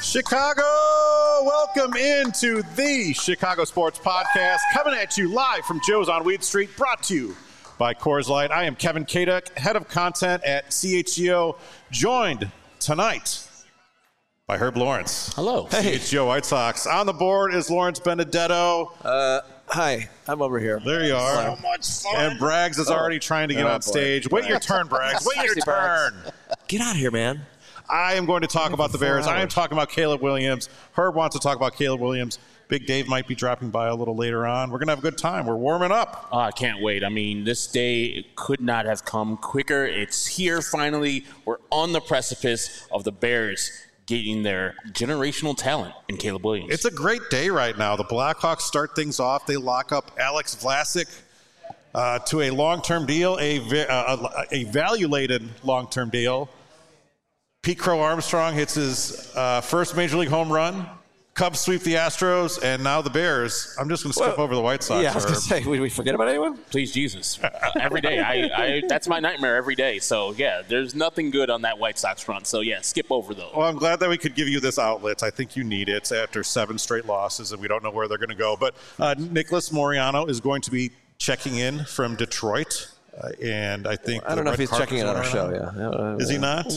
Chicago, welcome into the Chicago Sports Podcast, coming at you live from Joe's on Weed Street, brought to you by Coors Light. I am Kevin Kaduk, head of content at CHGO, joined tonight by Herb Lawrence. Hello. Hey. CHGO White Sox. On the board is Lawrence Benedetto. Hi, I'm over here. There you are. So much fun. And Braggs is already trying to get on stage. Wait your turn, Braggs. Wait your turn. Get out of here, man. I am going to talk about the Bears. I am talking about Caleb Williams. Herb wants to talk about Caleb Williams. Big Dave might be dropping by a little later on. We're going to have a good time. We're warming up. Oh, I can't wait. I mean, this day could not have come quicker. It's here finally. We're on the precipice of the Bears getting their generational talent in Caleb Williams. It's a great day right now. The Blackhawks start things off. They lock up Alex Vlasic to a long-term deal, a value-laden long-term deal. Pete Crow Armstrong hits his first Major League home run. Cubs sweep the Astros, and now the Bears. I'm just going to skip over the White Sox. Yeah, I was going to say, did we forget about anyone? Please, Jesus. Every day. I that's my nightmare every day. So, yeah, there's nothing good on that White Sox front. So, yeah, skip over those. Well, I'm glad that we could give you this outlet. I think you need it after 7 straight losses, and we don't know where they're going to go. But Nicholas Moreano is going to be checking in from Detroit. And I think I don't know if he's checking in on our show. Yeah, is he not?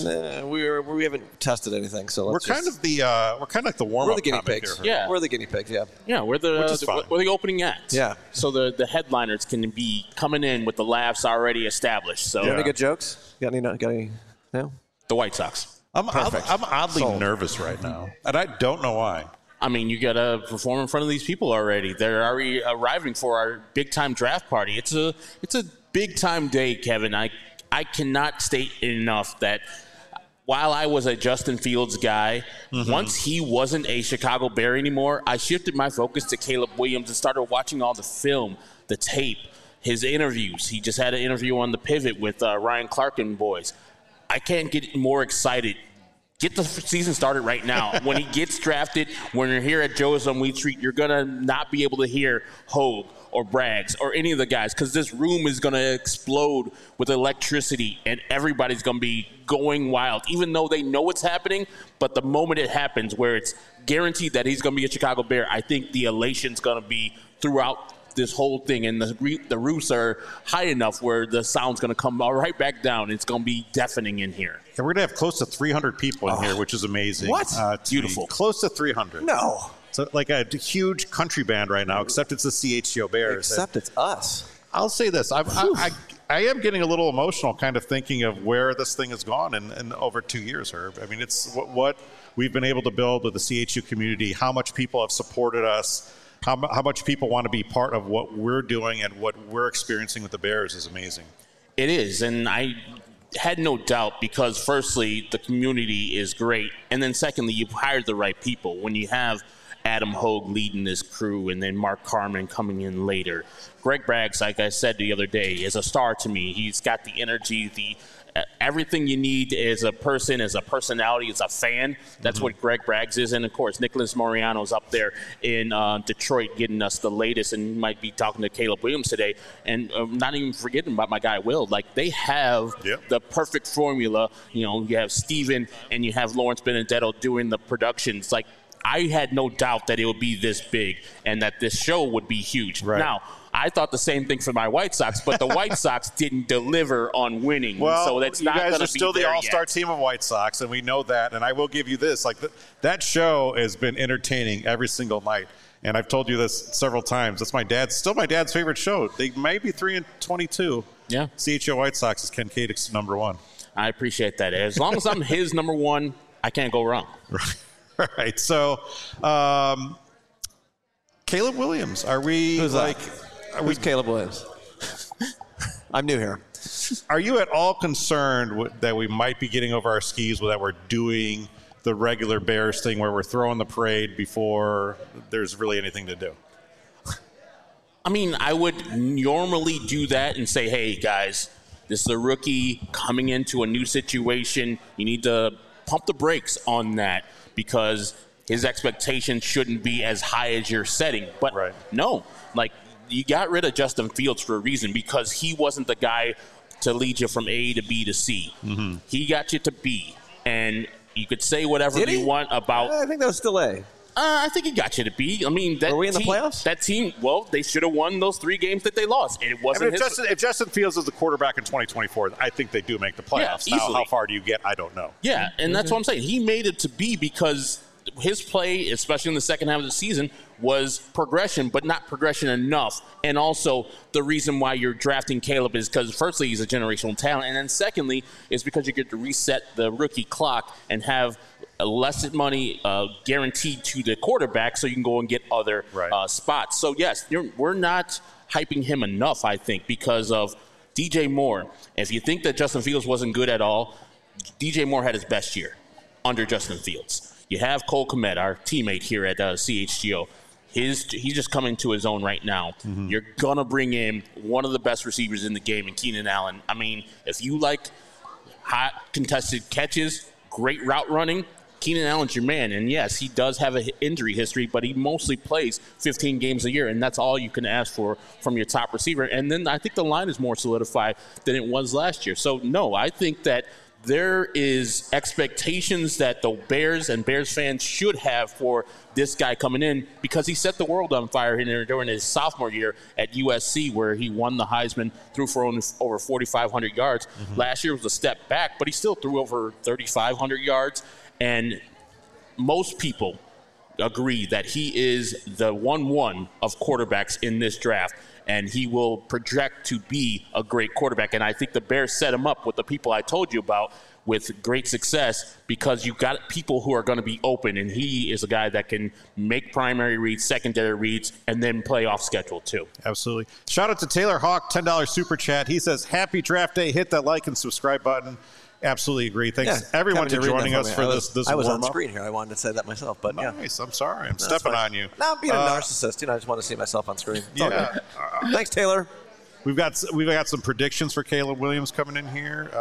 We haven't tested anything, so we're kind of like the warm up. We're the guinea pigs. Yeah, we're the guinea pigs. Yeah, yeah, we're the opening act. Yeah, so the headliners can be coming in with the laughs already established. So, any good jokes? Got any? No. The White Sox. I'm oddly nervous right now, and I don't know why. I mean, you got to perform in front of these people already. They're already arriving for our big time draft party. It's a big time day, Kevin. I cannot state enough that while I was a Justin Fields guy, once he wasn't a Chicago Bear anymore, I shifted my focus to Caleb Williams and started watching all the film, the tape, his interviews. He just had an interview on The Pivot with Ryan Clark and boys. I can't get more excited. Get the season started right now. When he gets drafted, when you're here at Joe's on Weed Street, you're going to not be able to hear Hogue or Braggs or any of the guys because this room is going to explode with electricity and everybody's going to be going wild, even though they know it's happening. But the moment it happens where it's guaranteed that he's going to be a Chicago Bear, I think the elation's going to be throughout this whole thing, and the roofs are high enough where the sound's going to come right back down. It's going to be deafening in here. Yeah, we're going to have close to 300 people in here, which is amazing. What? Beautiful. Close to 300. No. So like a huge country band right now, except it's the CHGO Bears. Except it's us. I'll say this. I am getting a little emotional kind of thinking of where this thing has gone in over 2 years, Herb. I mean, it's what we've been able to build with the CHU community, how much people have supported us, how much people want to be part of what we're doing and what we're experiencing with the Bears is amazing. It is, and I had no doubt because, firstly, the community is great, and then, secondly, you've hired the right people. When you have Adam Hogue leading this crew and then Mark Carman coming in later. Greg Braggs, like I said the other day, is a star to me. He's got the energy, everything you need as a person, as a personality, as a fan. That's what Greg Braggs is. And, of course, Nicholas Moreano's up there in Detroit getting us the latest, and you might be talking to Caleb Williams today. And not even forgetting about my guy Will. Like, they have the perfect formula. You know, you have Steven and you have Lawrence Benedetto doing the productions. Like, I had no doubt that it would be this big and that this show would be huge. Right. Now, I thought the same thing for my White Sox, but the White Sox didn't deliver on winning. Well, so that's not going to be you guys are still the all-star team of White Sox, and we know that. And I will give you this: like that show has been entertaining every single night. And I've told you this several times. That's my dad's favorite show. They might be 3-22. Yeah. CHO White Sox is Ken Kaduk's number one. I appreciate that. As long as I'm his number one, I can't go wrong. Right. All right. So, Caleb Williams, Who's Caleb Williams? I'm new here. Are you at all concerned that we might be getting over our skis, that we're doing the regular Bears thing where we're throwing the parade before there's really anything to do? I mean, I would normally do that and say, hey, guys, this is a rookie coming into a new situation. You need to pump the brakes on that because his expectations shouldn't be as high as you're setting. But no, like, you got rid of Justin Fields for a reason because he wasn't the guy to lead you from A to B to C. Mm-hmm. He got you to B. And you could say whatever Did you he? want about. I think that was still A. I think it got you to B. I mean, that Were we in the team, playoffs? That team, well, they should have won those 3 games that they lost. It I wasn't mean, if Justin Fields is the quarterback in 2024, I think they do make the playoffs. Yeah, now, easily. how far do you get? I don't know. Yeah, and that's what I'm saying. He made it to B because his play, especially in the second half of the season, was progression, but not progression enough. And also, the reason why you're drafting Caleb is because, firstly, he's a generational talent, and then secondly, is because you get to reset the rookie clock and have less money guaranteed to the quarterback so you can go and get other spots. So, yes, we're not hyping him enough, I think, because of DJ Moore. If you think that Justin Fields wasn't good at all, DJ Moore had his best year under Justin Fields. You have Cole Kmet, our teammate here at CHGO. He's just coming to his own right now. Mm-hmm. You're going to bring in one of the best receivers in the game in Keenan Allen. I mean, if you like hot contested catches, great route running, Keenan Allen's your man. And, yes, he does have an injury history, but he mostly plays 15 games a year, and that's all you can ask for from your top receiver. And then I think the line is more solidified than it was last year. So, no, I think that there is expectations that the Bears and Bears fans should have for this guy coming in because he set the world on fire during his sophomore year at USC where he won the Heisman, threw for over 4,500 yards. Mm-hmm. Last year was a step back, but he still threw over 3,500 yards. And most people agree that he is the 1-1 of quarterbacks in this draft. And he will project to be a great quarterback. And I think the Bears set him up with the people I told you about with great success because you've got people who are going to be open. And he is a guy that can make primary reads, secondary reads, and then play off schedule too. Absolutely. Shout out to Taylor Hawk, $10 super chat. He says, happy draft day. Hit that like and subscribe button. Absolutely agree. Thanks everyone for joining us for this I was warm-up. on screen here. I wanted to say that myself, but nice. I'm sorry. I'm stepping on you. No, I'm being a narcissist. I just want to see myself on screen. Thanks, Taylor. We've got some predictions for Caleb Williams coming in here.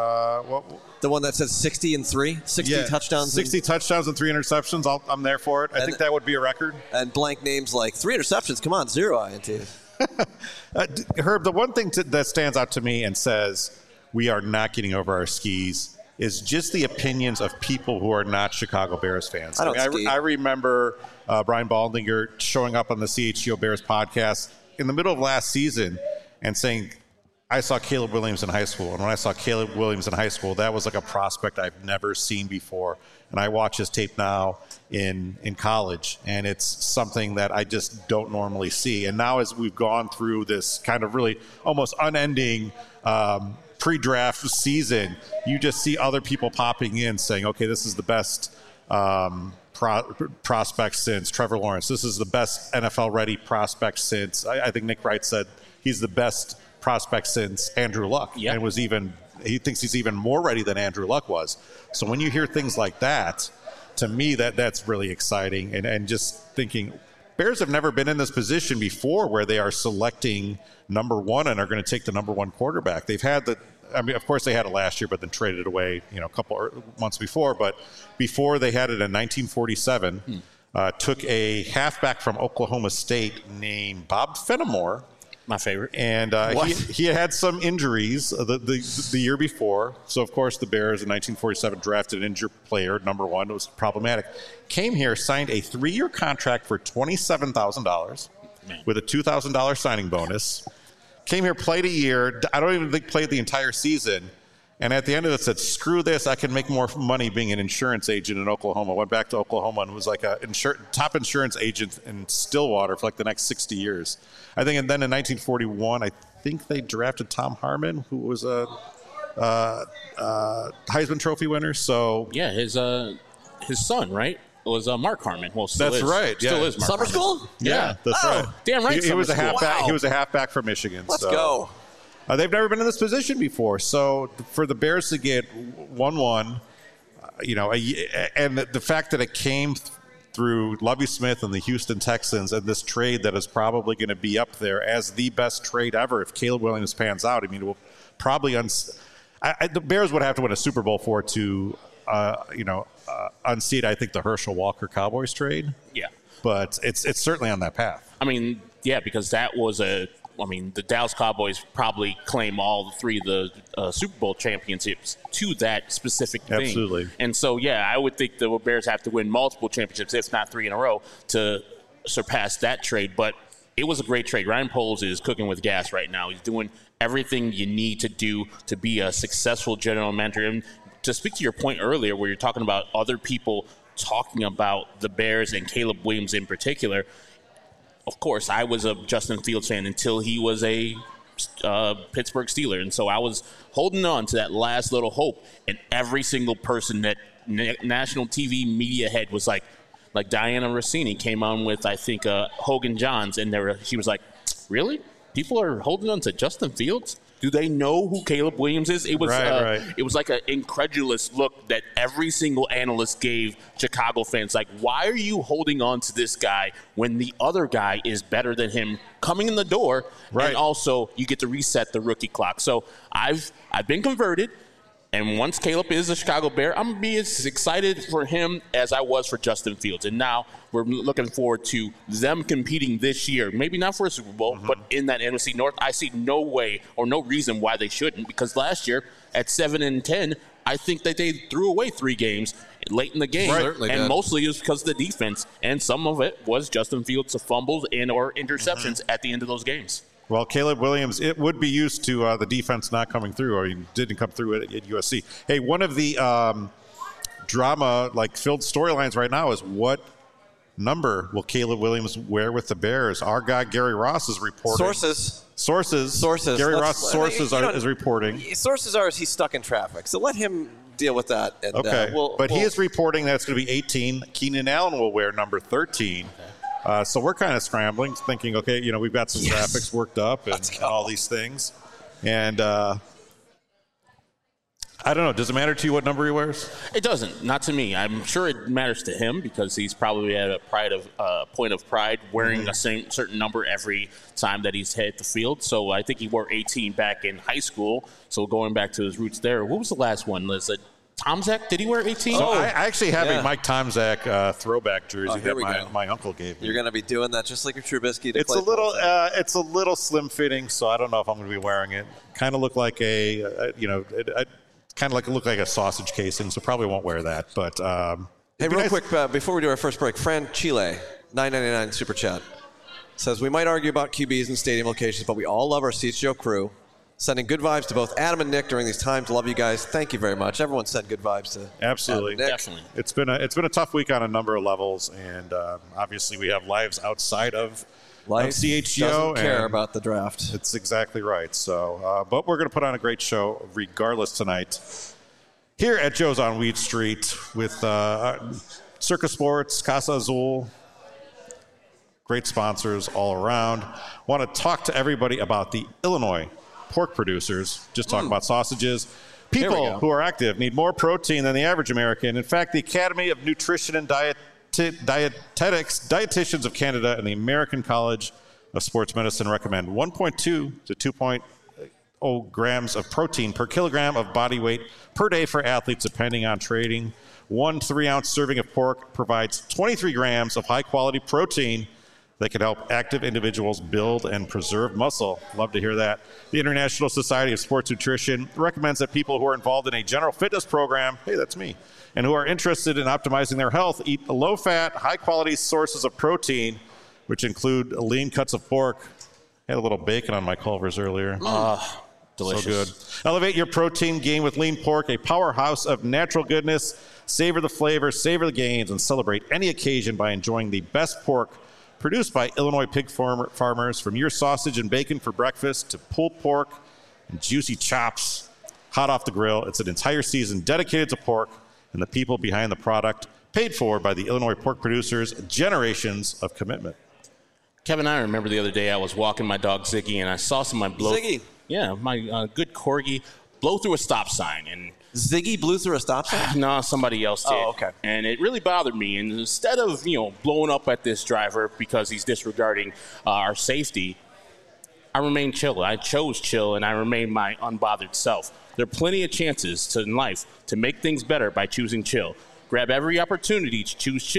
The one that says 60 and 3, 60 touchdowns. 60 touchdowns and 3 interceptions. I'm there for it. I think that would be a record. And blank names like 3 interceptions. Come on, 0 INT. Herb, the one thing that stands out to me and says we are not getting over our skis is just the opinions of people who are not Chicago Bears fans. I remember Brian Baldinger showing up on the CHGO Bears podcast in the middle of last season and saying, I saw Caleb Williams in high school. And when I saw Caleb Williams in high school, that was like a prospect I've never seen before. And I watch his tape now in college, and it's something that I just don't normally see. And now as we've gone through this kind of really almost unending pre-draft season, you just see other people popping in saying, okay, this is the best prospect since Trevor Lawrence. This is the best NFL-ready prospect since, I think Nick Wright said he's the best prospect since Andrew Luck. Yep. And he thinks he's even more ready than Andrew Luck was. So when you hear things like that, to me, that's really exciting. And just thinking, Bears have never been in this position before where they are selecting number 1 and are going to take the number 1 quarterback. They've had of course they had it last year, but then traded it away, a couple months before. But before they had it in 1947, took a halfback from Oklahoma State named Bob Fenimore. My favorite. And he had some injuries the year before. So, of course, the Bears in 1947 drafted an injured player, number 1. It was problematic. Came here, signed a 3-year contract for $27,000 with a $2,000 signing bonus. Came here, played a year. I don't even think played the entire season. And at the end of it said, screw this, I can make more money being an insurance agent in Oklahoma. Went back to Oklahoma and was like a top insurance agent in Stillwater for like the next 60 years. I think, and then in 1941, I think they drafted Tom Harmon, who was a Heisman Trophy winner. So yeah, his son, right? Was Mark Harmon. Well, still that's is. right. Yeah. Still is Mark Summer Harmon. school? Yeah, that's right. Damn right. He was a halfback. Wow. He was a halfback from Michigan. Let's go. They've never been in this position before. So for the Bears to get 1-1, and the fact that it came through Lovie Smith and the Houston Texans and this trade that is probably going to be up there as the best trade ever if Caleb Williams pans out. I mean, it will probably the Bears would have to win a Super Bowl for it to unseat, I think, the Herschel Walker Cowboys trade. Yeah. But it's certainly on that path. I mean, yeah, because that was a I mean, the Dallas Cowboys probably claim all three of the Super Bowl championships to that specific thing. Absolutely. And so, yeah, I would think the Bears have to win multiple championships, if not 3 in a row, to surpass that trade. But it was a great trade. Ryan Poles is cooking with gas right now. He's doing everything you need to do to be a successful general manager. And to speak to your point earlier where you're talking about other people talking about the Bears and Caleb Williams in particular, of course, I was a Justin Fields fan until he was a Pittsburgh Steeler. And so I was holding on to that last little hope. And every single person that national TV media head was like Diana Rossini came on with, I think, Hogan Johns. And she was like, really? People are holding on to Justin Fields? Do they know who Caleb Williams is? It was right. It was like an incredulous look that every single analyst gave Chicago fans. Like, why are you holding on to this guy when the other guy is better than him coming in the door? Right. And also, you get to reset the rookie clock. So I've been converted. And once Caleb is a Chicago Bear, I'm going to be as excited for him as I was for Justin Fields. And now we're looking forward to them competing this year. Maybe not for a Super Bowl, but in that NFC North, I see no way or no reason why they shouldn't. Because last year at 7-10, I think that they threw away 3 games late in the game. Right. And mostly it was because of the defense. And some of it was Justin Fields' fumbles and or interceptions at the end of those games. Well, Caleb Williams, it would be used to the defense not coming through, or he didn't come through at USC. Hey, one of the drama-filled storylines right now is what number will Caleb Williams wear with the Bears? Our guy Gary Ross is reporting. Sources. Gary Ross' sources is reporting. Sources are he's stuck in traffic, so let him deal with that. And, okay, he is reporting that it's going to be 18. Keenan Allen will wear number 13. Okay. So we're kind of scrambling, thinking, okay, we've got some graphics worked up and all these things. And I don't know. Does it matter to you what number he wears? It doesn't. Not to me. I'm sure it matters to him because he's probably at a point of pride wearing a certain number every time that he's hit the field. So I think he wore 18 back in high school. So going back to his roots there, what was the last one? Was it Tomczak? Did he wear 18? So I actually have a Mike Tomczak throwback jersey that my uncle gave me. You're going to be doing that just like your Trubisky. It's a little slim fitting, so I don't know if I'm going to be wearing it. Kind of look like look like a sausage casing, so probably won't wear that. But hey, real quick before we do our first break, Fran Chile, $9.99 super chat, says we might argue about QBs and stadium locations, but we all love our Seats Joe crew. Sending good vibes to both Adam and Nick during these times. Love you guys. Thank you very much. Everyone sent good vibes to absolutely, Adam and Nick. Definitely. It's been a tough week on a number of levels, and obviously we have lives outside of CHGO. Doesn't care about the draft. It's exactly right. So, but we're going to put on a great show regardless tonight here at Joe's on Weed Street with Circus Sports, Casa Azul. Great sponsors all around. Want to talk to everybody about the Illinois pork producers. Just talking about sausages. People who are active need more protein than the average American. In fact, the Academy of Nutrition and Dietitians of Canada and the American College of Sports Medicine recommend 1.2 to 2.0 grams of protein per kilogram of body weight per day for athletes, depending on training. 1 3-ounce serving of pork provides 23 grams of high-quality protein that can help active individuals build and preserve muscle. Love to hear that. The International Society of Sports Nutrition recommends that people who are involved in a general fitness program, hey, that's me, and who are interested in optimizing their health eat low-fat, high-quality sources of protein, which include lean cuts of pork. I had a little bacon on my Culver's earlier. Delicious. So good. Elevate your protein gain with lean pork, a powerhouse of natural goodness. Savor the flavor, savor the gains, and celebrate any occasion by enjoying the best pork produced by Illinois pig farmers. From your sausage and bacon for breakfast to pulled pork and juicy chops hot off the grill, it's an entire season dedicated to pork and the people behind the product, paid for by the Illinois pork producers, generations of commitment. Kevin, I remember the other day I was walking my dog Ziggy, and I saw somebody blow. Ziggy? Yeah, my good corgi blow through a stop sign. And Ziggy blew through a stop sign? No, somebody else did. Oh, okay. And it really bothered me. And instead of, blowing up at this driver because he's disregarding our safety, I remained chill. I chose chill, and I remained my unbothered self. There are plenty of chances in life to make things better by choosing chill. Grab every opportunity to choose chill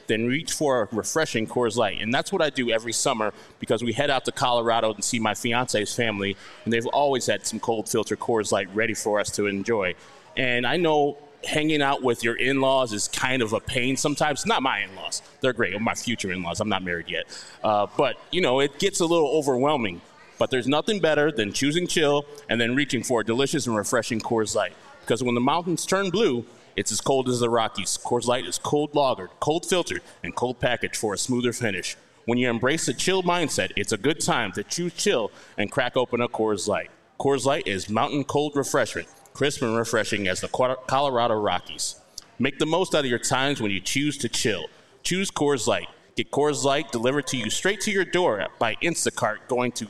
then reach for a refreshing Coors Light. And that's what I do every summer because we head out to Colorado and see my fiance's family, and they've always had some cold filter Coors Light ready for us to enjoy. And I know hanging out with your in-laws is kind of a pain sometimes. Not my in-laws. They're great. My future in-laws. I'm not married yet. But, it gets a little overwhelming. But there's nothing better than choosing chill and then reaching for a delicious and refreshing Coors Light. Because when the mountains turn blue, it's as cold as the Rockies. Coors Light is cold lagered, cold filtered, and cold packaged for a smoother finish. When you embrace the chill mindset, it's a good time to choose chill and crack open a Coors Light. Coors Light is mountain cold refreshment, crisp and refreshing as the Colorado Rockies. Make the most out of your times when you choose to chill. Choose Coors Light. Get Coors Light delivered to you straight to your door by Instacart going to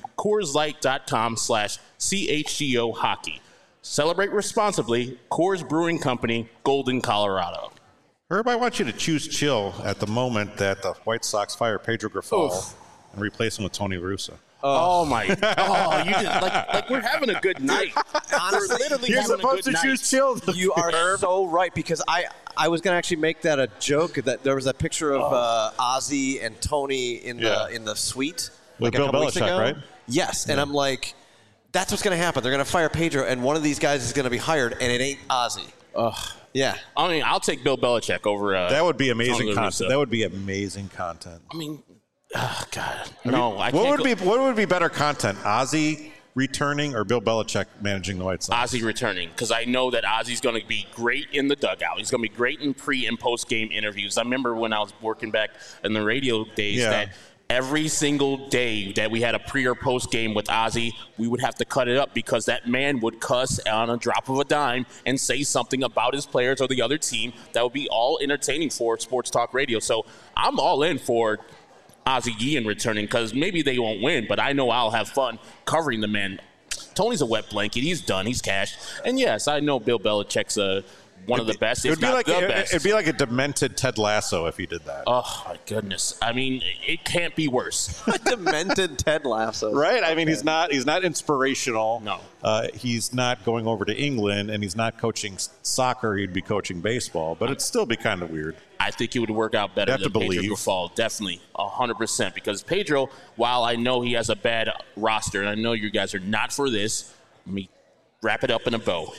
CoorsLight.com/CHGO hockey. Celebrate responsibly. Coors Brewing Company, Golden, Colorado. Herb, I want you to choose chill at the moment that the White Sox fire Pedro Grifol and replace him with Tony La Russa. Oh my! Oh, you just like we're having a good night. Honestly, we're literally you're having supposed a good to choose chill. You are so right, because I was going to actually make that a joke, that there was a picture of Ozzy and Tony in the suite With like Bill a couple weeks Belichick, ago. right? Yes, and I'm like, that's what's going to happen. They're going to fire Pedro, and one of these guys is going to be hired, and it ain't Ozzy. Yeah. I mean, I'll take Bill Belichick over. That would be amazing Tony La content. Russa. That would be amazing content. I mean, oh God, no! I What can't. would be better content? Ozzy returning or Bill Belichick managing the White Sox? Ozzy returning, because I know that Ozzy's going to be great in the dugout. He's going to be great in pre- and post-game interviews. I remember when I was working back in the radio days that every single day that we had a pre- or post-game with Ozzy, we would have to cut it up because that man would cuss on a drop of a dime and say something about his players or the other team that would be all entertaining for sports talk radio. So I'm all in for Ozzy Guillen returning, because maybe they won't win, but I know I'll have fun covering the man. Tony's a wet blanket. He's done. He's cashed. And, yes, I know Bill Belichick's one of the best, if not the best. It'd be like a demented Ted Lasso if he did that. Oh, my goodness. I mean, it can't be worse. Demented Ted Lasso. Right? I mean, he's not inspirational. No. He's not going over to England, and he's not coaching soccer. He'd be coaching baseball, but it'd still be kind of weird. I think it would work out better than Pedro Grifol. Definitely, 100%. Because Pedro, while I know he has a bad roster, and I know you guys are not for this, let me wrap it up in a bow.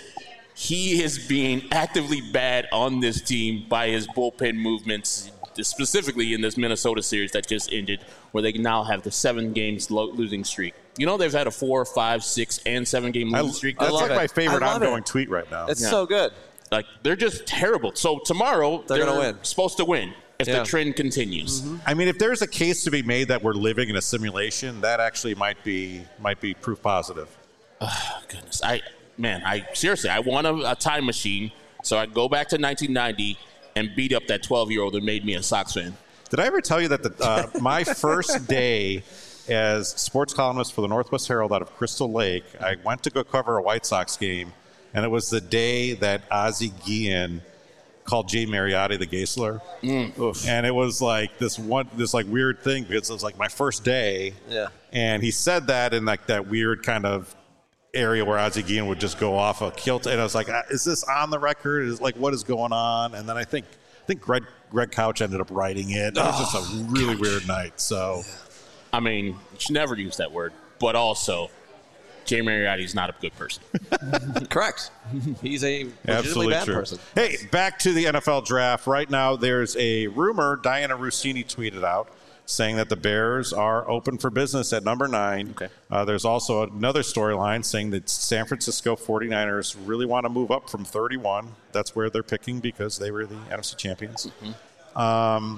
He is being actively bad on this team by his bullpen movements, specifically in this Minnesota series that just ended, where they now have the 7 games losing streak. You know, they've had a 4, 5, 6, and 7 game losing streak. That's like my favorite I love ongoing tweet right now. It's so good. Like, they're just terrible. So tomorrow, They're gonna win. supposed to win if the trend continues. Mm-hmm. I mean, if there's a case to be made that we're living in a simulation, that actually might be proof positive. Oh, goodness. I seriously, I want a time machine so I go back to 1990 and beat up that 12-year-old that made me a Sox fan. Did I ever tell you that my first day as sports columnist for the Northwest Herald out of Crystal Lake, I went to go cover a White Sox game, and it was the day that Ozzy Guillen called Jay Mariotti the gay slur. And it was like this weird thing because it was like my first day. Yeah. And he said that in like that weird kind of area where Ozzy Guillen would just go off a kilt. And I was like, is this on the record? Is like, what is going on? And then I think Greg Couch ended up writing it. It was just a really weird night. So, I mean, you should never use that word, but also, Jay Mariotti is not a good person. Correct. He's a legitimately absolutely bad true. person. Hey, back to the NFL draft. Right now, there's a rumor Diana Rossini tweeted out saying that the Bears are open for business at number 9. Okay. There's also another storyline saying that San Francisco 49ers really want to move up from 31. That's where they're picking because they were the NFC champions. Mm-hmm.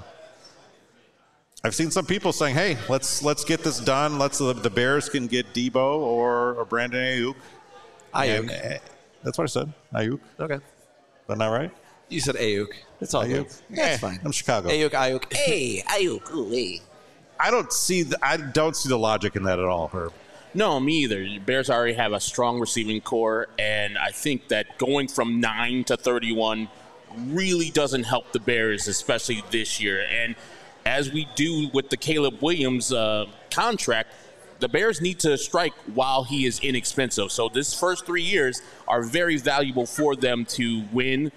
I've seen some people saying, "Hey, let's get this done. The Bears can get Debo or Brandon Ayuk." Ayuk. That's what I said. Ayuk. Okay. Is that not right? You said Ayuk. It's all good. That's fine. I'm Chicago. Ayuk. Hey, Ayuk. Ooh, hey. I don't see the logic in that at all, Herb. No, me either. The Bears already have a strong receiving core, and I think that going from 9 to 31 really doesn't help the Bears, especially this year. And as we do with the Caleb Williams contract, the Bears need to strike while he is inexpensive. So this first 3 years are very valuable for them to win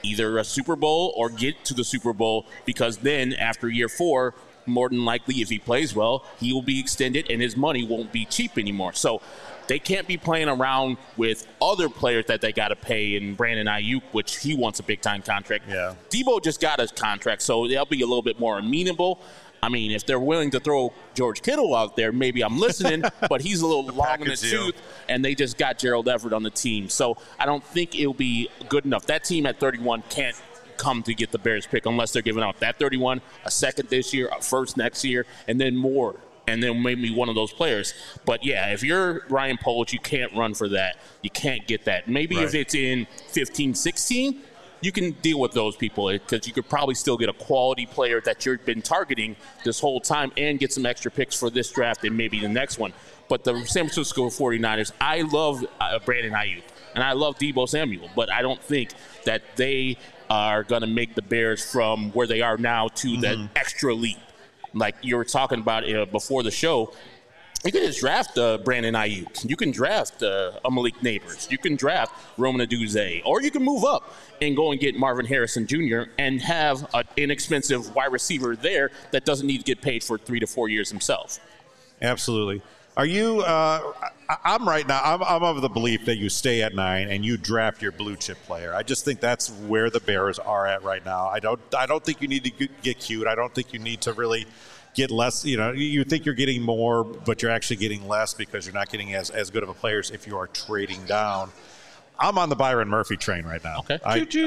either a Super Bowl or get to the Super Bowl, because then after year 4, more than likely, if he plays well, he will be extended and his money won't be cheap anymore. So they can't be playing around with other players that they got to pay, and Brandon Ayuk, which he wants a big-time contract. Yeah. Debo just got a contract, so they'll be a little bit more amenable. I mean, if they're willing to throw George Kittle out there, maybe I'm listening, but he's a little long in the tooth, and they just got Gerald Everett on the team. So I don't think it'll be good enough. That team at 31 can't come to get the Bears pick unless they're giving up that 31, a second this year, a first next year, and then more, and then maybe one of those players. But yeah, if you're Ryan Poles, you can't run for that. You can't get that. Maybe if it's in 15, 16, you can deal with those people, because you could probably still get a quality player that you've been targeting this whole time and get some extra picks for this draft and maybe the next one. But the San Francisco 49ers, I love Brandon Ayuk, and I love Debo Samuel, but I don't think that they are going to make the Bears from where they are now to that extra leap. Like you were talking about before the show, you can just draft Brandon Ayuk. You can draft Malik Neighbors. You can draft Roman Aduze. Or you can move up and go and get Marvin Harrison Jr. and have an inexpensive wide receiver there that doesn't need to get paid for 3 to 4 years himself. Absolutely. Are you? I'm right now. I'm of the belief that you stay at 9 and you draft your blue chip player. I just think that's where the Bears are at right now. I don't think you need to get cute. I don't think you need to really get less. You think you're getting more, but you're actually getting less because you're not getting as good of a players if you are trading down. I'm on the Byron Murphy train right now. Okay.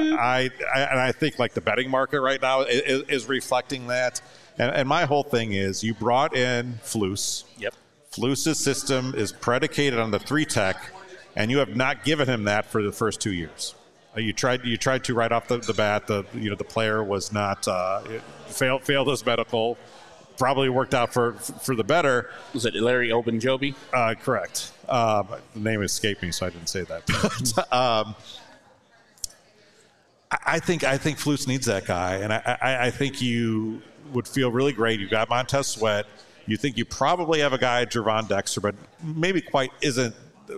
I think like the betting market right now is reflecting that. And my whole thing is you brought in Flus. Yep. Flus's system is predicated on the 3-tech, and you have not given him that for the first 2 years. You tried to right off the bat. The player was not failed his medical. Probably worked out for the better. Was it Larry Ogunjobi? Correct. The name escaped me, so I didn't say that. I think Flus needs that guy, and I think you would feel really great. You got Montez Sweat. You think you probably have a guy, Gervon Dexter, but maybe quite isn't,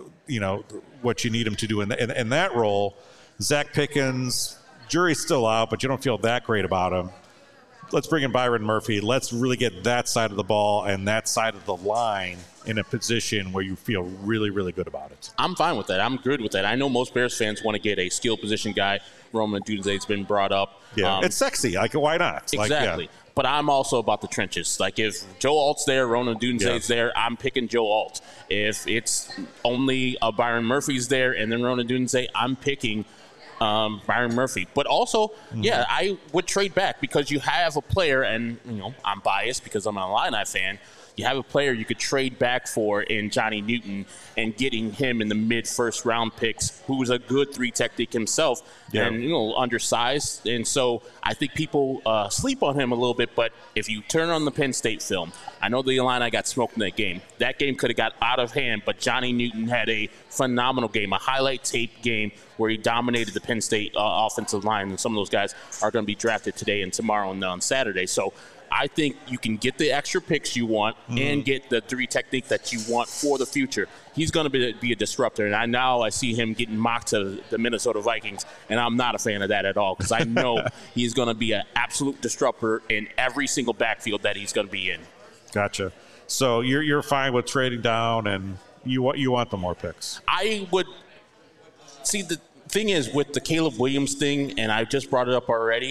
what you need him to do in that role. Zach Pickens, jury's still out, but you don't feel that great about him. Let's bring in Byron Murphy. Let's really get that side of the ball and that side of the line in a position where you feel really, really good about it. I'm fine with that. I'm good with that. I know most Bears fans want to get a skill position guy. Roman Aduze's been brought up. Yeah, it's sexy. Like, why not? Exactly. But I'm also about the trenches. Like, if Joe Alt's there, Ronan Aduze's there, I'm picking Joe Alt. If it's only Byron Murphy's there and then Ronan Aduze, I'm picking Byron Murphy. But also, I would trade back because you have a player, and I'm biased because I'm an Illini fan. You have a player you could trade back for in Johnny Newton and getting him in the mid-first round picks, who's a good 3-technique himself and, undersized. And so I think people sleep on him a little bit, but if you turn on the Penn State film, I know the Illini got smoked in that game. That game could have got out of hand, but Johnny Newton had a phenomenal game, a highlight tape game where he dominated the Penn State offensive line, and some of those guys are going to be drafted today and tomorrow and on Saturday. So I think you can get the extra picks you want and get the 3-technique that you want for the future. He's going to be a disruptor, and I see him getting mocked to the Minnesota Vikings, and I'm not a fan of that at all because I know he's going to be an absolute disruptor in every single backfield that he's going to be in. Gotcha. So you're fine with trading down, and you want the more picks. I would see the thing is with the Caleb Williams thing, and I just brought it up already.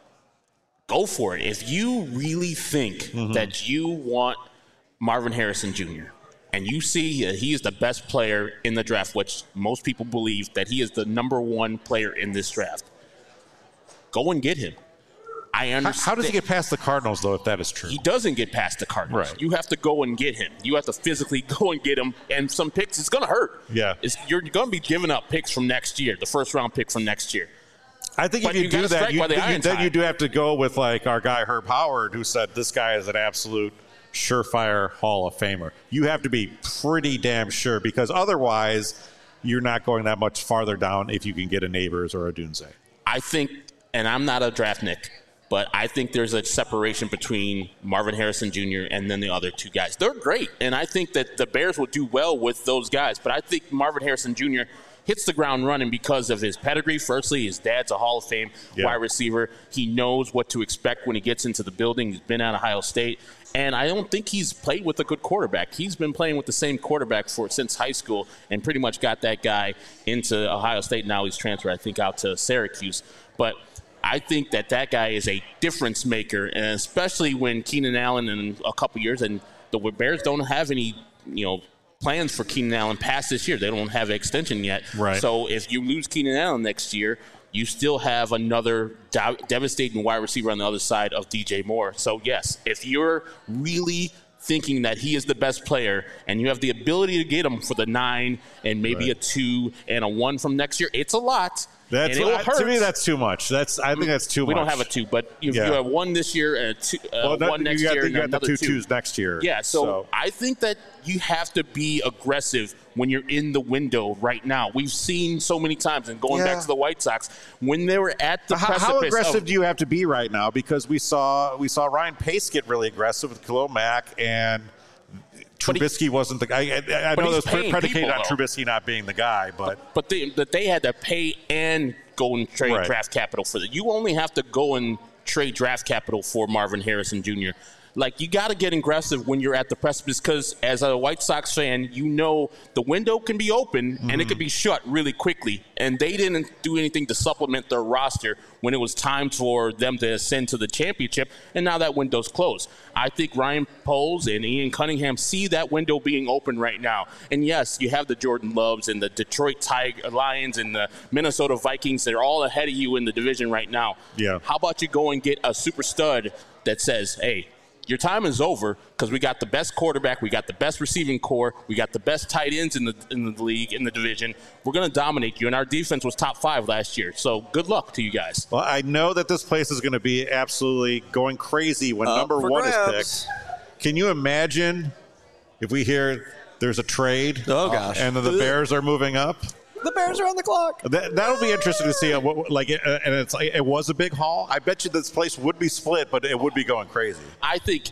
Go for it. If you really think that you want Marvin Harrison Jr. and you see that he is the best player in the draft, which most people believe that he is the number 1 player in this draft, go and get him. I understand. How does he get past the Cardinals, though, if that is true? He doesn't get past the Cardinals. Right. You have to go and get him. You have to physically go and get him. And some picks, it's going to hurt. Yeah. You're going to be giving up picks from next year, the first-round pick from next year. I think But if you do that, then you do have to go with like our guy Herb Howard, who said this guy is an absolute surefire Hall of Famer. You have to be pretty damn sure because otherwise you're not going that much farther down if you can get a Neighbors or a Dunze. I think, and I'm not a draft Nick, But I think there's a separation between Marvin Harrison Jr. and then the other two guys. They're great, and I think that the Bears will do well with those guys. But I think Marvin Harrison Jr. hits the ground running because of his pedigree. Firstly, his dad's a Hall of Fame wide receiver. He knows what to expect when he gets into the building. He's been at Ohio State. And I don't think he's played with a good quarterback. He's been playing with the same quarterback since high school and pretty much got that guy into Ohio State. Now he's transferred, I think, out to Syracuse. But I think that guy is a difference maker, and especially when Keenan Allen in a couple years, and the Bears don't have any, plans for Keenan Allen past this year. They don't have an extension yet. Right. So if you lose Keenan Allen next year, you still have another devastating wide receiver on the other side of DJ Moore. So, yes, if you're really thinking that he is the best player and you have the ability to get him for the 9 and maybe a 2 and a 1 from next year, it's a lot. That's and it will hurt. To me, that's too much. I think that's too much. We don't have a 2, but you have 1 this year and a 2, 1 next year, and another 2. You got the 2 2s next year. Yeah, so I think that you have to be aggressive when you're in the window right now. We've seen so many times, and going back to the White Sox, when they were at the precipice. How aggressive do you have to be right now? Because we saw Ryan Pace get really aggressive with Khalil Mack, and Trubisky wasn't the guy. I know that's predicated on Trubisky not being the guy, but they had to pay and go and trade draft capital for that. You only have to go and trade draft capital for Marvin Harrison Jr. Like, you got to get aggressive when you're at the precipice, because as a White Sox fan, the window can be open and it can be shut really quickly. And they didn't do anything to supplement their roster when it was time for them to ascend to the championship, and now that window's closed. I think Ryan Poles and Ian Cunningham see that window being open right now. And yes, you have the Jordan Loves and the Detroit Lions and the Minnesota Vikings. They're all ahead of you in the division right now. Yeah. How about you go and get a super stud that says, hey, your time is over because we got the best quarterback, we got the best receiving core, we got the best tight ends in the league, in the division. We're going to dominate you, and our defense was top 5 last year. So good luck to you guys. Well, I know that this place is going to be absolutely going crazy when number 1 is picked. Can you imagine if we hear there's a trade? Oh, gosh. And then the Bears are moving up? The Bears are on the clock. That'll be interesting to see. And it's like, it was a big haul. I bet you this place would be split, but it would be going crazy. I think,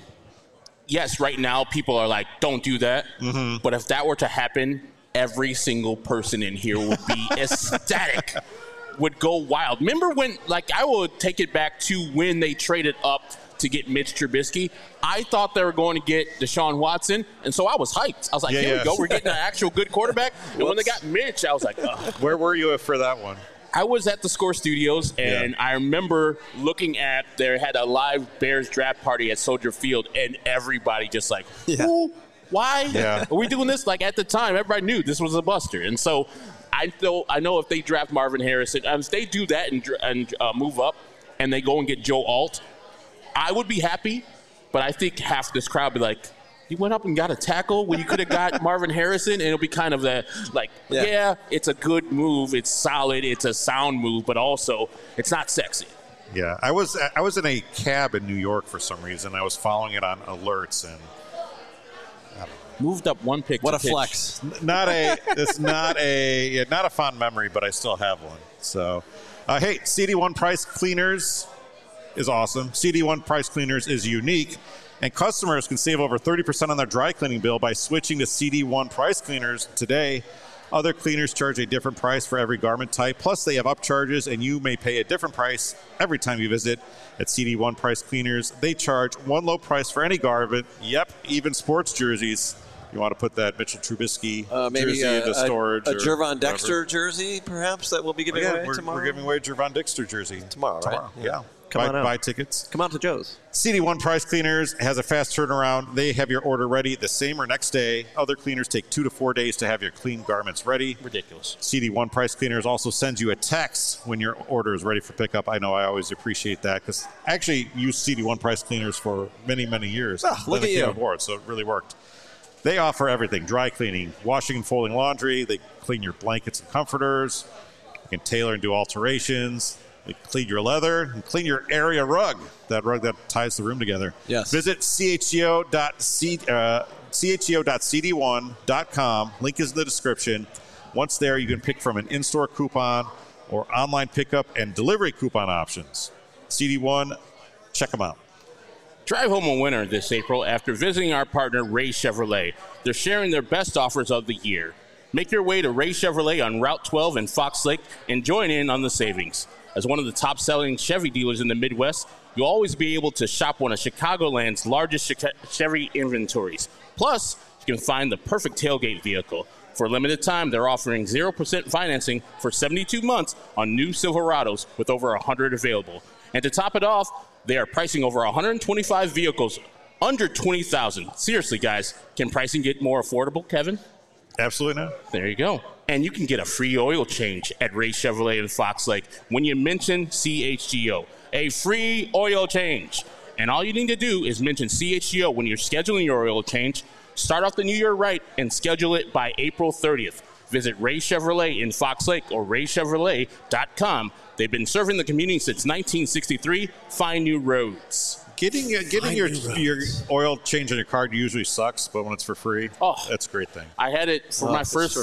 yes, right now people are like, don't do that. Mm-hmm. But if that were to happen, every single person in here would be ecstatic, would go wild. Remember when, I will take it back to when they traded up to get Mitch Trubisky. I thought they were going to get Deshaun Watson, and so I was hyped. I was like, here we go. We're getting an actual good quarterback. And when they got Mitch, I was like, ugh. Where were you for that one? I was at the Score Studios, and I remember looking at, they had a live Bears draft party at Soldier Field, and everybody just like, who? Why? Yeah. Are we doing this? At the time, everybody knew this was a buster. And so I know if they draft Marvin Harrison, if they do that and move up, and they go and get Joe Alt, I would be happy, but I think half this crowd would be like, you went up and got a tackle when you could have got Marvin Harrison, and it'll be kind of it's a good move, it's solid, it's a sound move, but also it's not sexy. Yeah, I was in a cab in New York for some reason. I was following it on alerts, and moved up 1 pick. What a pitch. flex! It's not a fond memory, but I still have one. So, hey, CD1 Price Cleaners is awesome. CD1 Price Cleaners is unique, and customers can save over 30% on their dry cleaning bill by switching to CD1 Price Cleaners today. Other cleaners charge a different price for every garment type, plus they have upcharges, and you may pay a different price every time you visit. At CD1 Price Cleaners, they charge one low price for any garment. Yep, even sports jerseys. You want to put that Mitchell Trubisky jersey into storage. A Gervon Dexter jersey, perhaps, that we'll be giving away tomorrow? We're giving away a Gervon Dexter jersey. Tomorrow, right? Yeah. Come on out. Buy tickets. Come on to Joe's. CD1 Price Cleaners has a fast turnaround. They have your order ready the same or next day. Other cleaners take 2 to 4 days to have your clean garments ready. Ridiculous. CD1 Price Cleaners also sends you a text when your order is ready for pickup. I know I always appreciate that because I actually used CD1 Price Cleaners for many, many years. Look at you. Aboard, so it really worked. They offer everything: dry cleaning, washing and folding laundry. They clean your blankets and comforters. You can tailor and do alterations. They clean your leather and clean your area rug, that rug that ties the room together. Yes. Visit chgo.cd1.com. Link is in the description. Once there, you can pick from an in-store coupon or online pickup and delivery coupon options. CD1 Check them out. Drive home a winner this April after visiting our partner, Ray Chevrolet. They're sharing their best offers of the year. Make your way to Ray Chevrolet on Route 12 in Fox Lake and join in on the savings. As one of the top-selling Chevy dealers in the Midwest, you'll always be able to shop one of Chicagoland's largest Chevy inventories. Plus, you can find the perfect tailgate vehicle. For a limited time, they're offering 0% financing for 72 months on new Silverados with over 100 available. And to top it off, they are pricing over 125 vehicles under $20,000. Seriously, guys, can pricing get more affordable, Kevin? Absolutely not. There you go. And you can get a free oil change at Ray Chevrolet in Fox Lake when you mention CHGO. A free oil change. And all you need to do is mention CHGO when you're scheduling your oil change. Start off the new year right and schedule it by April 30th. Visit Ray Chevrolet in Fox Lake or raychevrolet.com. They've been serving the community since 1963. Find new roads. Getting your oil change on your car usually sucks, but when it's for free, that's a great thing. I had it for my first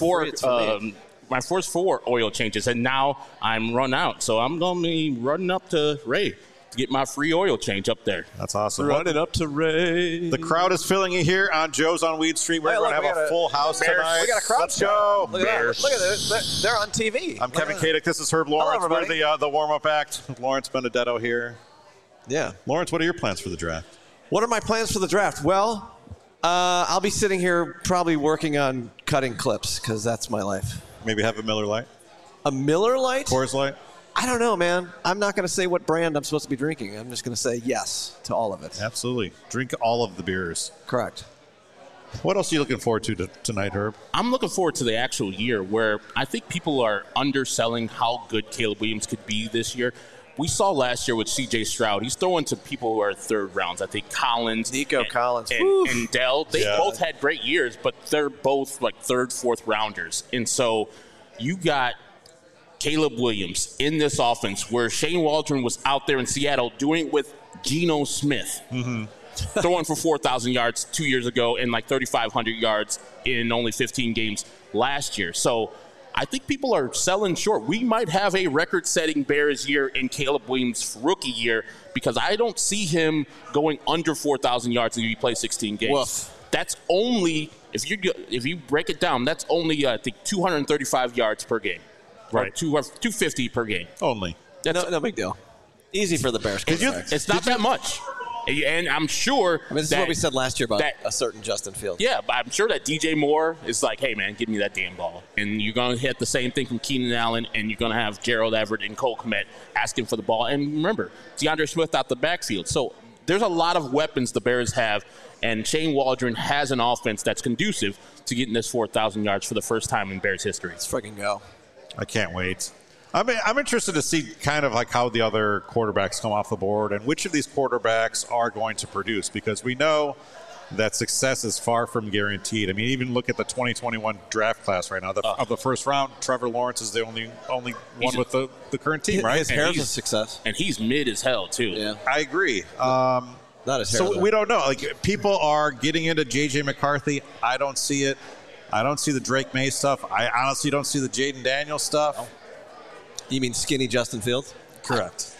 four oil changes, and now I'm run out. So I'm going to be running up to Ray to get my free oil change up there. That's awesome. Running up to Ray. The crowd is filling in here on Joe's on Weed Street. We're going to have a full house tonight. We got a crowd. Let's go. Look at that. Look at this. They're on TV. I'm Kevin Kadick. This is Herb Lawrence. Hello, We're the warm-up act. Lawrence Benedetto here. Yeah. Lawrence, what are your plans for the draft? What are my plans for the draft? Well, I'll be sitting here probably working on cutting clips because that's my life. Maybe have a Miller Lite? A Miller Lite? Coors Light? I don't know, man. I'm not going to say what brand I'm supposed to be drinking. I'm just going to say yes to all of it. Absolutely. Drink all of the beers. Correct. What else are you looking forward to tonight, Herb? I'm looking forward to the actual year where I think people are underselling how good Caleb Williams could be this year. We saw last year with C.J. Stroud. He's throwing to people who are third rounds. I think Collins, Nico Collins, and Dell. They both had great years, but they're both like third, fourth rounders. And so you got Caleb Williams in this offense where Shane Waldron was out there in Seattle doing it with Geno Smith, throwing for 4,000 yards 2 years ago and like 3,500 yards in only 15 games last year. So I think people are selling short. We might have a record-setting Bears year in Caleb Williams' rookie year because I don't see him going under 4,000 yards if he plays 16 games. Woof. That's only, if you break it down, that's only, I think, 235 yards per game. Right. 250 per game. Only. No big deal. Easy for the Bears. It's not that much. And I'm sure this is what we said last year about a certain Justin Fields. Yeah, but I'm sure that DJ Moore is like, hey, man, give me that damn ball. And you're going to hit the same thing from Keenan Allen, and you're going to have Gerald Everett and Cole Kmet asking for the ball. And remember, DeAndre Swift out the backfield. So there's a lot of weapons the Bears have, and Shane Waldron has an offense that's conducive to getting this 4,000 yards for the first time in Bears history. Let's freaking go. I can't wait. I'm interested to see kind of like how the other quarterbacks come off the board and which of these quarterbacks are going to produce, because we know that success is far from guaranteed. I mean, even look at the 2021 draft class right now. Of the first round, Trevor Lawrence is the only one with the current team, right? His hair's a success. And he's mid as hell, too. Yeah. I agree. Not his hair. So we don't know. Like, people are getting into J.J. McCarthy. I don't see it. I don't see the Drake May stuff. I honestly don't see the Jaden Daniels stuff. Oh. You mean skinny Justin Fields? Correct.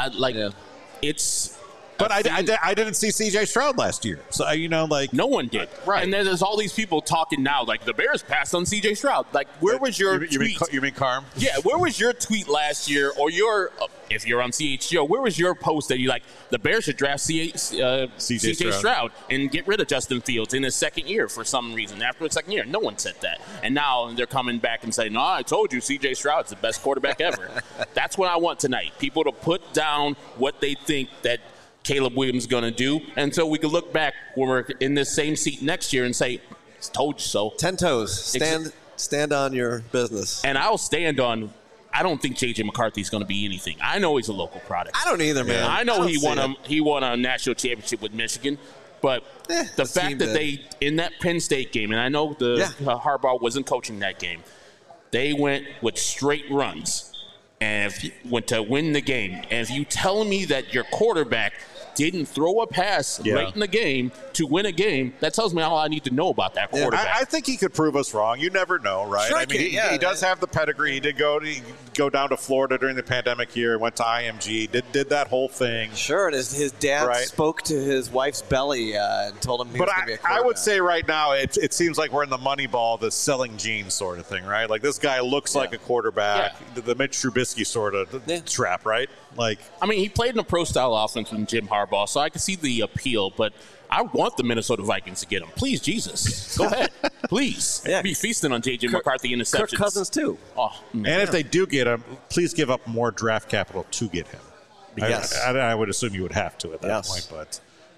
It's. But I didn't see C.J. Stroud last year. So, no one did. Right. And then there's all these people talking now, like, the Bears passed on C.J. Stroud. Like, where was your tweet? You mean Carm? Yeah, where was your tweet last year, or if you're on CHGO, where was your post that you like, the Bears should draft C.J. Stroud and get rid of Justin Fields in his second year for some reason? After his second year, no one said that. And now they're coming back and saying, no, I told you C.J. Stroud's the best quarterback ever. That's what I want tonight. People to put down what they think that Caleb Williams is going to do, and so we can look back when we're in this same seat next year and say, told you so. 10 toes. Stand on your business. And I'll stand on, I don't think J.J. McCarthy is going to be anything. I know he's a local product. I don't either, man. I know he won a national championship with Michigan, but the fact that they, in that Penn State game, and I know Harbaugh wasn't coaching that game, they went with straight runs and went to win the game. And if you tell me that your quarterback didn't throw a pass late in the game to win a game, that tells me all I need to know about that quarterback. I think he could prove us wrong. You never know, right? Sure I mean, he does have the pedigree. He did go down to Florida during the pandemic year, went to IMG, did that whole thing. Sure, and his dad spoke to his wife's belly and told him he was going to be a quarterback. I would say right now it seems like we're in the Moneyball, the selling jeans sort of thing, right? Like this guy looks like a quarterback, the Mitch Trubisky sort of trap, right? Like, I mean, he played in a pro-style offense with Jim Harbaugh, so I can see the appeal, but I want the Minnesota Vikings to get him. Please, Jesus. Go ahead. Please. Be feasting on J.J. McCarthy interceptions. Kirk Cousins, too. Oh, and if they do get him, please give up more draft capital to get him. Yes. I would assume you would have to at that point, but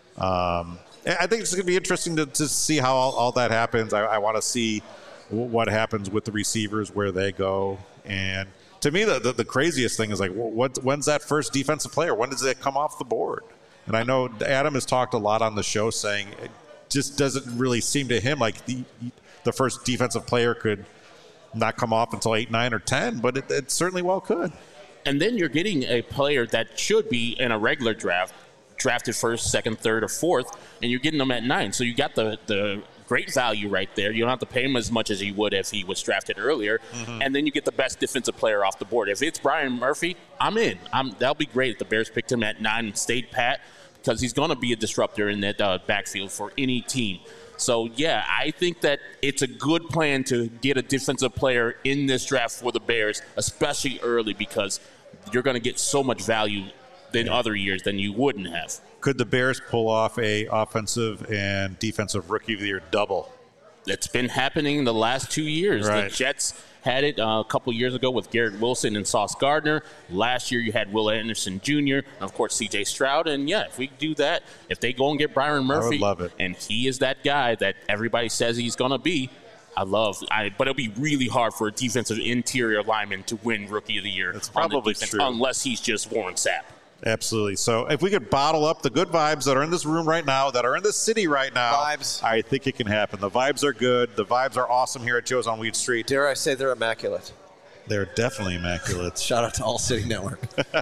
I think it's going to be interesting to see how all that happens. I want to see what happens with the receivers, where they go. And to me, the craziest thing is like, when's that first defensive player? When does it come off the board? And I know Adam has talked a lot on the show saying it just doesn't really seem to him like the first defensive player could not come off until 8, 9, or 10, but it certainly well could. And then you're getting a player that should be in a regular draft, drafted first, second, third, or fourth, and you're getting them at 9. So you got the great value right there. You don't have to pay him as much as you would if he was drafted earlier. Mm-hmm. And then you get the best defensive player off the board. If it's Brian Murphy, I'm in. That'll be great if the Bears picked him at 9 and stayed pat, because he's going to be a disruptor in that backfield for any team. So, yeah, I think that it's a good plan to get a defensive player in this draft for the Bears, especially early, because you're going to get so much value than other years than you wouldn't have. Could the Bears pull off a offensive and defensive rookie of the year double? It's been happening in the last 2 years. Right. The Jets had it a couple years ago with Garrett Wilson and Sauce Gardner. Last year you had Will Anderson Jr., and of course C.J. Stroud. And, yeah, if we do that, if they go and get Byron Murphy, I would love it. And he is that guy that everybody says he's going to be, but it'll be really hard for a defensive interior lineman to win Rookie of the Year. That's probably true. Unless he's just Warren Sapp. Absolutely. So if we could bottle up the good vibes that are in this room right now, that are in this city right now, I think it can happen. The vibes are good. The vibes are awesome here at Joe's on Weed Street. Dare I say they're immaculate? They're definitely immaculate. Shout out to All City Network.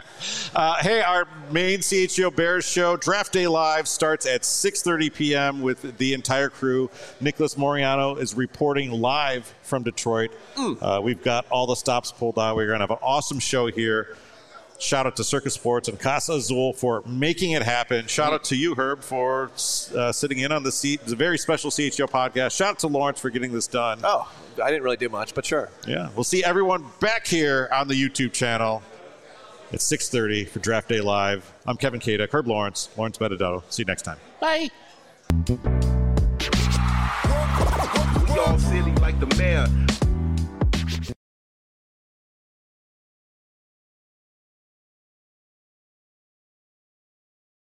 Hey, our main CHGO Bears show, Draft Day Live, starts at 6:30 p.m. with the entire crew. Nicholas Moriano is reporting live from Detroit. We've got all the stops pulled out. We're going to have an awesome show here. Shout out to Circus Sports and Casa Azul for making it happen. Shout out to you, Herb, for sitting in on the seat. It's a very special CHGO podcast. Shout out to Lawrence for getting this done. Oh, I didn't really do much, but sure. Yeah. We'll see everyone back here on the YouTube channel at 6:30 for Draft Day Live. I'm Kevin Kadek, Herb Lawrence, Lawrence Benedetto. See you next time. Bye.